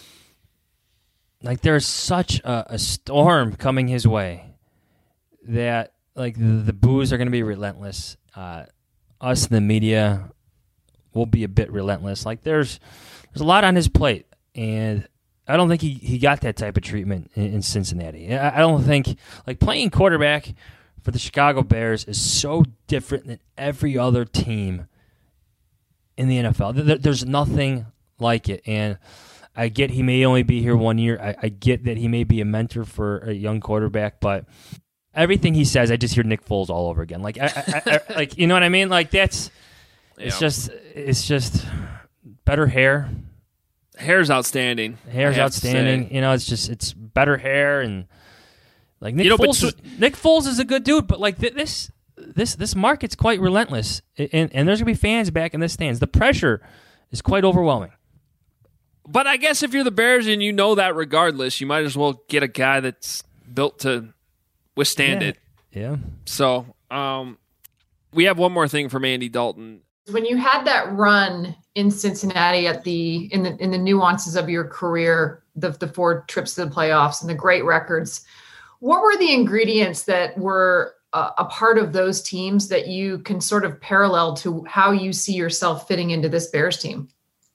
like there's such a, a storm coming his way that, like, the, the boos are going to be relentless. Uh, us in the media will be a bit relentless. Like, there's there's a lot on his plate, and I don't think he, he got that type of treatment in, in Cincinnati. I, I don't think, like, playing quarterback for the Chicago Bears is so different than every other team in the N F L. There, there's nothing like it, and I get he may only be here one year. I, I get that he may be a mentor for a young quarterback, but everything he says, I just hear Nick Foles all over again. Like, I, I, I, like, you know what I mean? Like, that's it's yeah. just it's just better hair. Hair's outstanding. Hair's outstanding. You know, it's just it's better hair, and like Nick you know, Foles. but, Is, Nick Foles is a good dude, but like th- this this this market's quite relentless, and and there's gonna be fans back in the stands. The pressure is quite overwhelming. But I guess if you're the Bears and you know that regardless, you might as well get a guy that's built to withstand yeah. it. Yeah. So um, we have one more thing from Andy Dalton. When you had that run in Cincinnati at the in the in the nuances of your career, the the four trips to the playoffs and the great records, what were the ingredients that were a, a part of those teams that you can sort of parallel to how you see yourself fitting into this Bears team?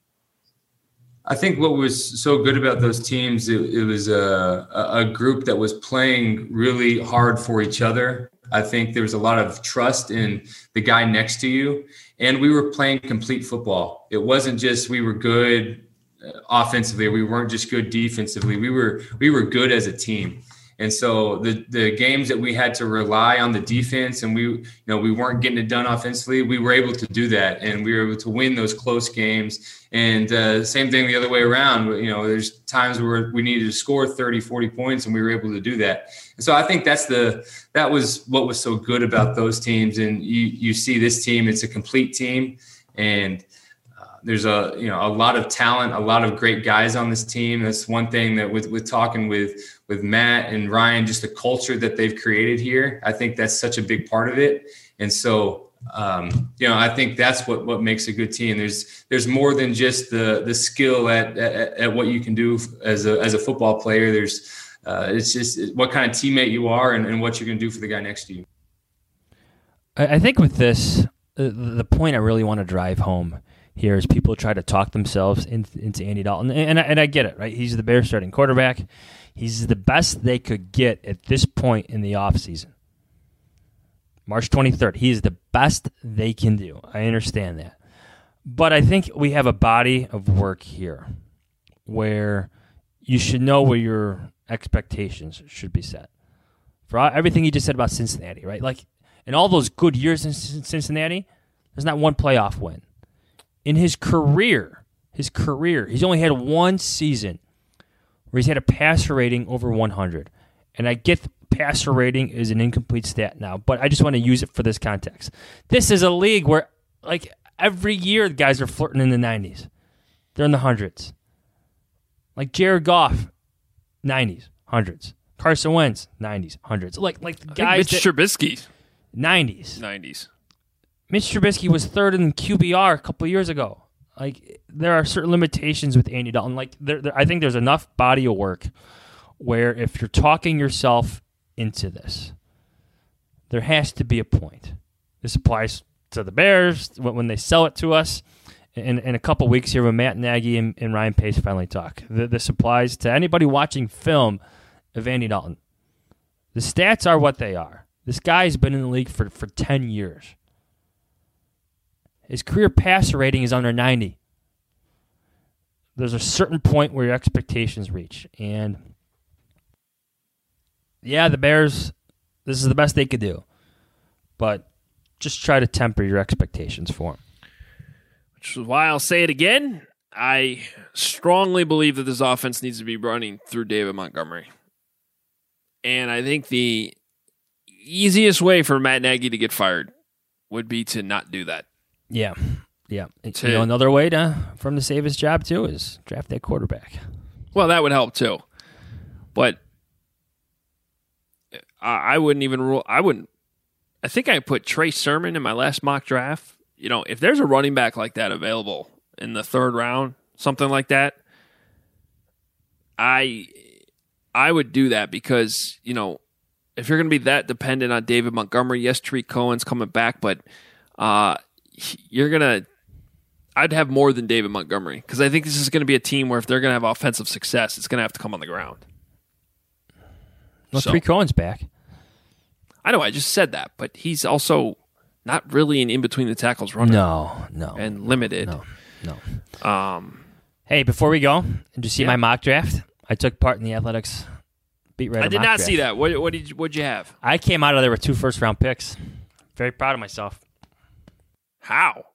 I think what was so good about those teams, it, it was a, a group that was playing really hard for each other. I think there was a lot of trust in the guy next to you, and we were playing complete football. It wasn't just we were good offensively, we weren't just good defensively. We were we were good as a team. And so the the games that we had to rely on the defense, and we you know we weren't getting it done offensively, we were able to do that, and we were able to win those close games. And uh, same thing the other way around. You know, there's times where we needed to score thirty, forty points, and we were able to do that. And so I think that's the that was what was so good about those teams. And you you see this team, it's a complete team, and there's a you know a lot of talent, a lot of great guys on this team. That's one thing that with with talking with with Matt and Ryan, just the culture that they've created here. I think that's such a big part of it. And so um, you know I think that's what what makes a good team. There's there's more than just the the skill at at, at what you can do as a as a football player. There's uh, it's just what kind of teammate you are and, and what you're going to do for the guy next to you. I think with this, the, the point I really want to drive home here is people try to talk themselves into, into Andy Dalton. And, and, I, and I get it, right? He's the Bears starting quarterback. He's the best they could get at this point in the offseason. March twenty-third, he is the best they can do. I understand that. But I think we have a body of work here where you should know where your expectations should be set. For everything you just said about Cincinnati, right? Like, in all those good years in Cincinnati, there's not one playoff win. In his career, his career, he's only had one season where he's had a passer rating over one hundred. And I get the passer rating is an incomplete stat now, but I just want to use it for this context. This is a league where, like, every year the guys are flirting in the nineties. They're in the hundreds. Like Jared Goff, nineties, hundreds. Carson Wentz, nineties, hundreds. Like, like the guys. Mitch Trubisky, nineties. nineties. Mitch Trubisky was third in Q B R a couple of years ago. Like, there are certain limitations with Andy Dalton. Like, there, there, I think there's enough body of work where if you're talking yourself into this, there has to be a point. This applies to the Bears when, when they sell it to us in, in a couple of weeks here when Matt Nagy and, and Ryan Pace finally talk. This applies to anybody watching film of Andy Dalton. The stats are what they are. This guy's been in the league for, for ten years. His career passer rating is under ninety. There's a certain point where your expectations reach. And, yeah, the Bears, this is the best they could do. But just try to temper your expectations for him. Which is why I'll say it again. I strongly believe that this offense needs to be running through David Montgomery. And I think the easiest way for Matt Nagy to get fired would be to not do that. Yeah. Yeah. To, you know, another way to for him to save his job, too, is draft that quarterback. Well, that would help, too. But I, I wouldn't even rule. I wouldn't. I think I put Trey Sermon in my last mock draft. You know, if there's a running back like that available in the third round, something like that, I I would do that because, you know, if you're going to be that dependent on David Montgomery, yes, Tariq Cohen's coming back, but uh, you're going to I'd have more than David Montgomery because I think this is going to be a team where if they're going to have offensive success, it's going to have to come on the ground. Well, so, Tariq Cohen's back. I know, I just said that, but he's also not really an in-between the tackles runner. No, no. And limited. No, no. Um, hey, before we go, did you see yeah. my mock draft? I took part in the Athletics beat writer I did mock not draft. see that. What, what did you, what'd you have? I came out of there with two first-round picks. Very proud of myself. How?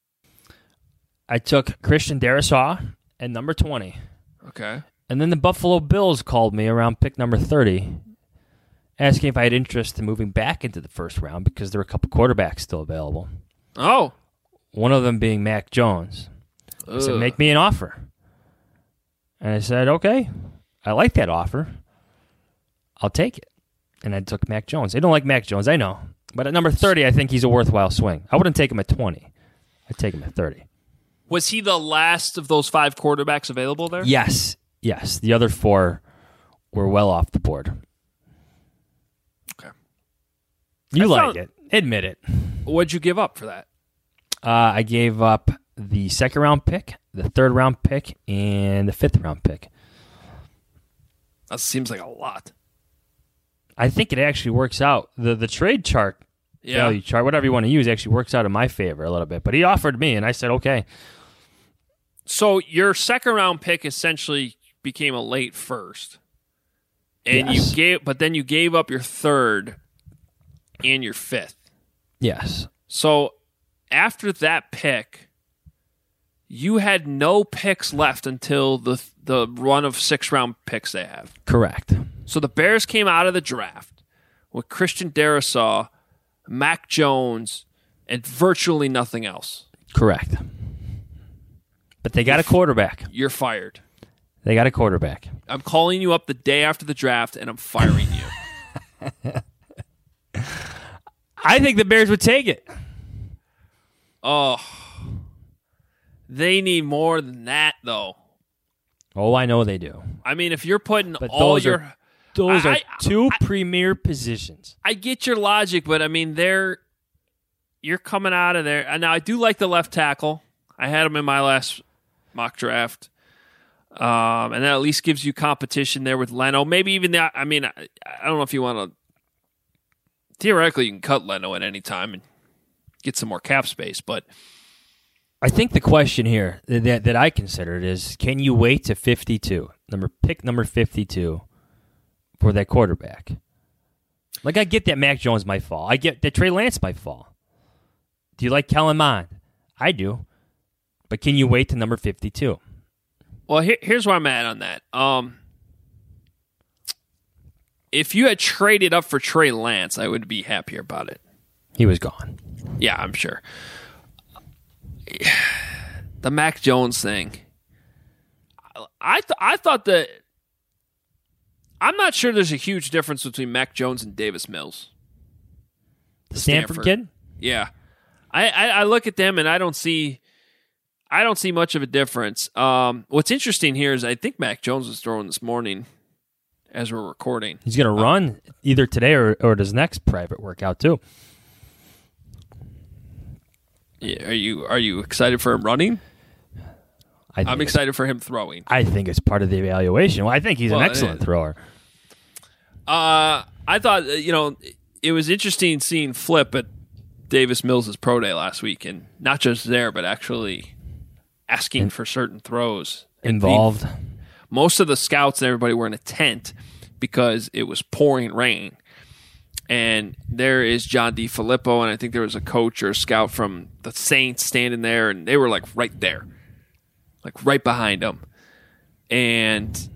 I took Christian Darrisaw at number twenty. Okay. And then the Buffalo Bills called me around pick number thirty, asking if I had interest in moving back into the first round because there were a couple quarterbacks still available. Oh. One of them being Mac Jones. Ugh. I said, make me an offer. And I said, okay, I like that offer. I'll take it. And I took Mac Jones. I don't like Mac Jones, I know. But at number thirty, I think he's a worthwhile swing. I wouldn't take him at twenty. I'd take him at thirty. Was he the last of those five quarterbacks available there? Yes. Yes. The other four were well off the board. Okay. You I like found, it. Admit it. What'd you give up for that? Uh, I gave up the second round pick, the third round pick, and the fifth round pick. That seems like a lot. I think it actually works out. The the trade chart, yeah. value chart, whatever you want to use, actually works out in my favor a little bit. But he offered me, and I said, okay. So your second round pick essentially became a late first. And yes. you gave but then you gave up your third and your fifth. Yes. So after that pick, you had no picks left until the the run of six round picks they have. Correct. So the Bears came out of the draft with Christian Darrisaw, Mac Jones, and virtually nothing else. Correct. But they got a quarterback. You're fired. They got a quarterback. I'm calling you up the day after the draft, and I'm firing you. I think the Bears would take it. Oh. They need more than that, though. Oh, I know they do. I mean, if you're putting but all those your... Are, those I, are I, two I, premier positions. I get your logic, but, I mean, they're... You're coming out of there. And now, I do like the left tackle. I had him in my last mock draft. Um, and that at least gives you competition there with Leno. Maybe even that. I mean, I, I don't know if you want to. Theoretically, you can cut Leno at any time and get some more cap space. But I think the question here that that I considered is: can you wait to fifty-two, number pick number fifty-two, for that quarterback? Like, I get that Mac Jones might fall. I get that Trey Lance might fall. Do you like Kellen Mond? I do. But can you wait to number fifty-two? Well, here, here's where I'm at on that. Um, if you had traded up for Trey Lance, I would be happier about it. He was gone. Yeah, I'm sure. The Mac Jones thing. I th- I thought that. I'm not sure there's a huge difference between Mac Jones and Davis Mills. The Stanford, Stanford kid? Yeah. I, I, I look at them and I don't see. I don't see much of a difference. Um, what's interesting here is I think Mac Jones was throwing this morning as we're recording. He's going to uh, run either today or, or at his next private workout, too. Yeah, are you are you excited for him running? I I'm excited for him throwing. I think it's part of the evaluation. Well, I think he's well, an excellent uh, thrower. Uh, I thought, you know, it was interesting seeing Flip at Davis Mills' pro day last week, and not just there, but actually asking In, for certain throws. Involved. The, most of the scouts and everybody were in a tent because it was pouring rain. And there is John DeFilippo, and I think there was a coach or a scout from the Saints standing there, and they were like right there, like right behind him. And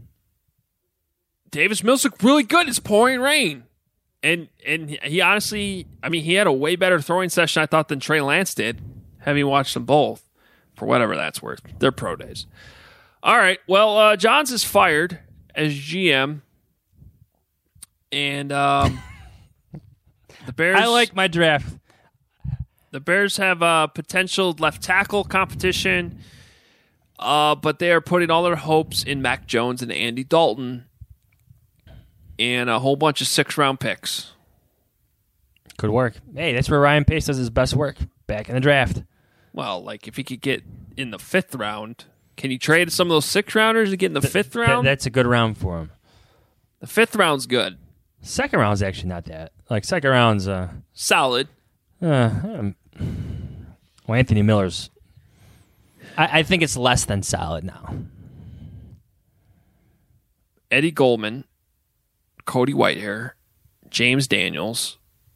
Davis Mills looked really good. It's pouring rain. And and he honestly, I mean, he had a way better throwing session, I thought, than Trey Lance did, having watched them both, for whatever that's worth. They're pro days. All right, well, uh, Johns is fired as G M. And um, the Bears... I like my draft. The Bears have a potential left tackle competition, uh, but they are putting all their hopes in Mac Jones and Andy Dalton, and a whole bunch of six-round picks. Could work. Hey, that's where Ryan Pace does his best work, back in the draft. Well, like, if he could get in the fifth round, can he trade some of those six-rounders to get in the, the fifth round? Th- that's a good round for him. The fifth round's good. Second round's actually not that. Like, second round's... Uh, Solid. Uh, um, well, Anthony Miller's... I, I think it's less than solid now. Eddie Goldman... Cody Whitehair, James Daniels,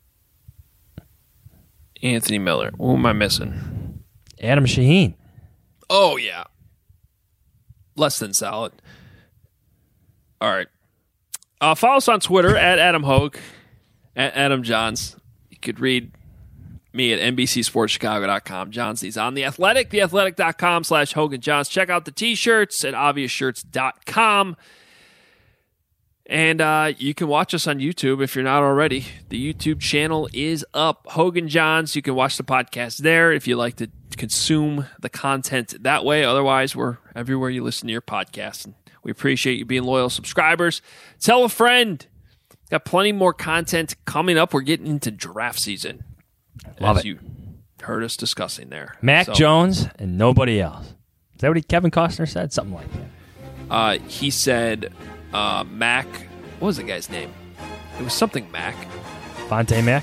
Anthony Miller. Who am I missing? Adam Shaheen. Oh, yeah. Less than solid. All right. Uh, follow us on Twitter at Adam Hogue, at Adam Johns. You could read me at N B C Sports Chicago dot com. Johnsy's on The Athletic, theathletic.com slash Hogan Johns. Check out the t-shirts at obvious shirts dot com. And uh, you can watch us on YouTube if you're not already. The YouTube channel is up, Hogan Johns. You can watch the podcast there if you like to consume the content that way. Otherwise, we're everywhere you listen to your podcast. And we appreciate you being loyal subscribers. Tell a friend. Got plenty more content coming up. We're getting into draft season. Love as it. you heard us discussing there. Mac so, Jones and nobody else. Is that what he, Kevin Costner said? Something like that. Uh, he said... Uh, Mac, what was the guy's name? It was something Mac. Vontae Mac?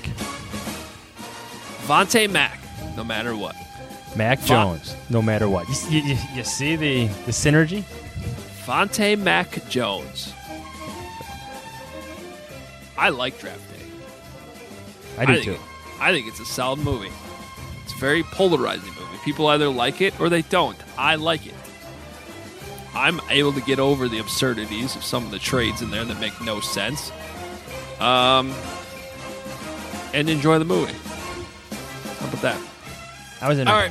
Vontae Mac, no matter what. Mac Von- Jones, no matter what. You, you, you see the, the synergy? Vontae Mac Jones. I like Draft Day. I do I think too. It, I think it's a solid movie. It's a very polarizing movie. People either like it or they don't. I like it. I'm able to get over the absurdities of some of the trades in there that make no sense, um, and enjoy the movie. How about that? I was in. All right.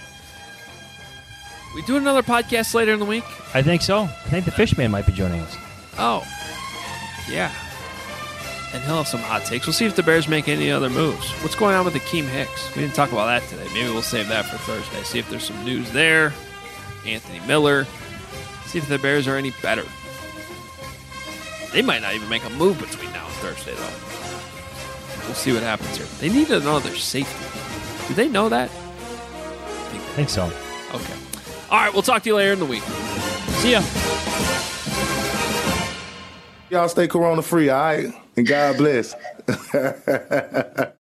We do another podcast later in the week? I think so. I think the Fishman might be joining us. Oh, yeah. And he'll have some hot takes. We'll see if the Bears make any other moves. What's going on with Akeem Hicks? We didn't talk about that today. Maybe we'll save that for Thursday. See if there's some news there. Anthony Miller. See if the Bears are any better. They might not even make a move between now and Thursday, though. We'll see what happens here. They need another safety. Do they know that? I think so. Okay. All right, we'll talk to you later in the week. See ya. Y'all stay corona free, all right? And God bless.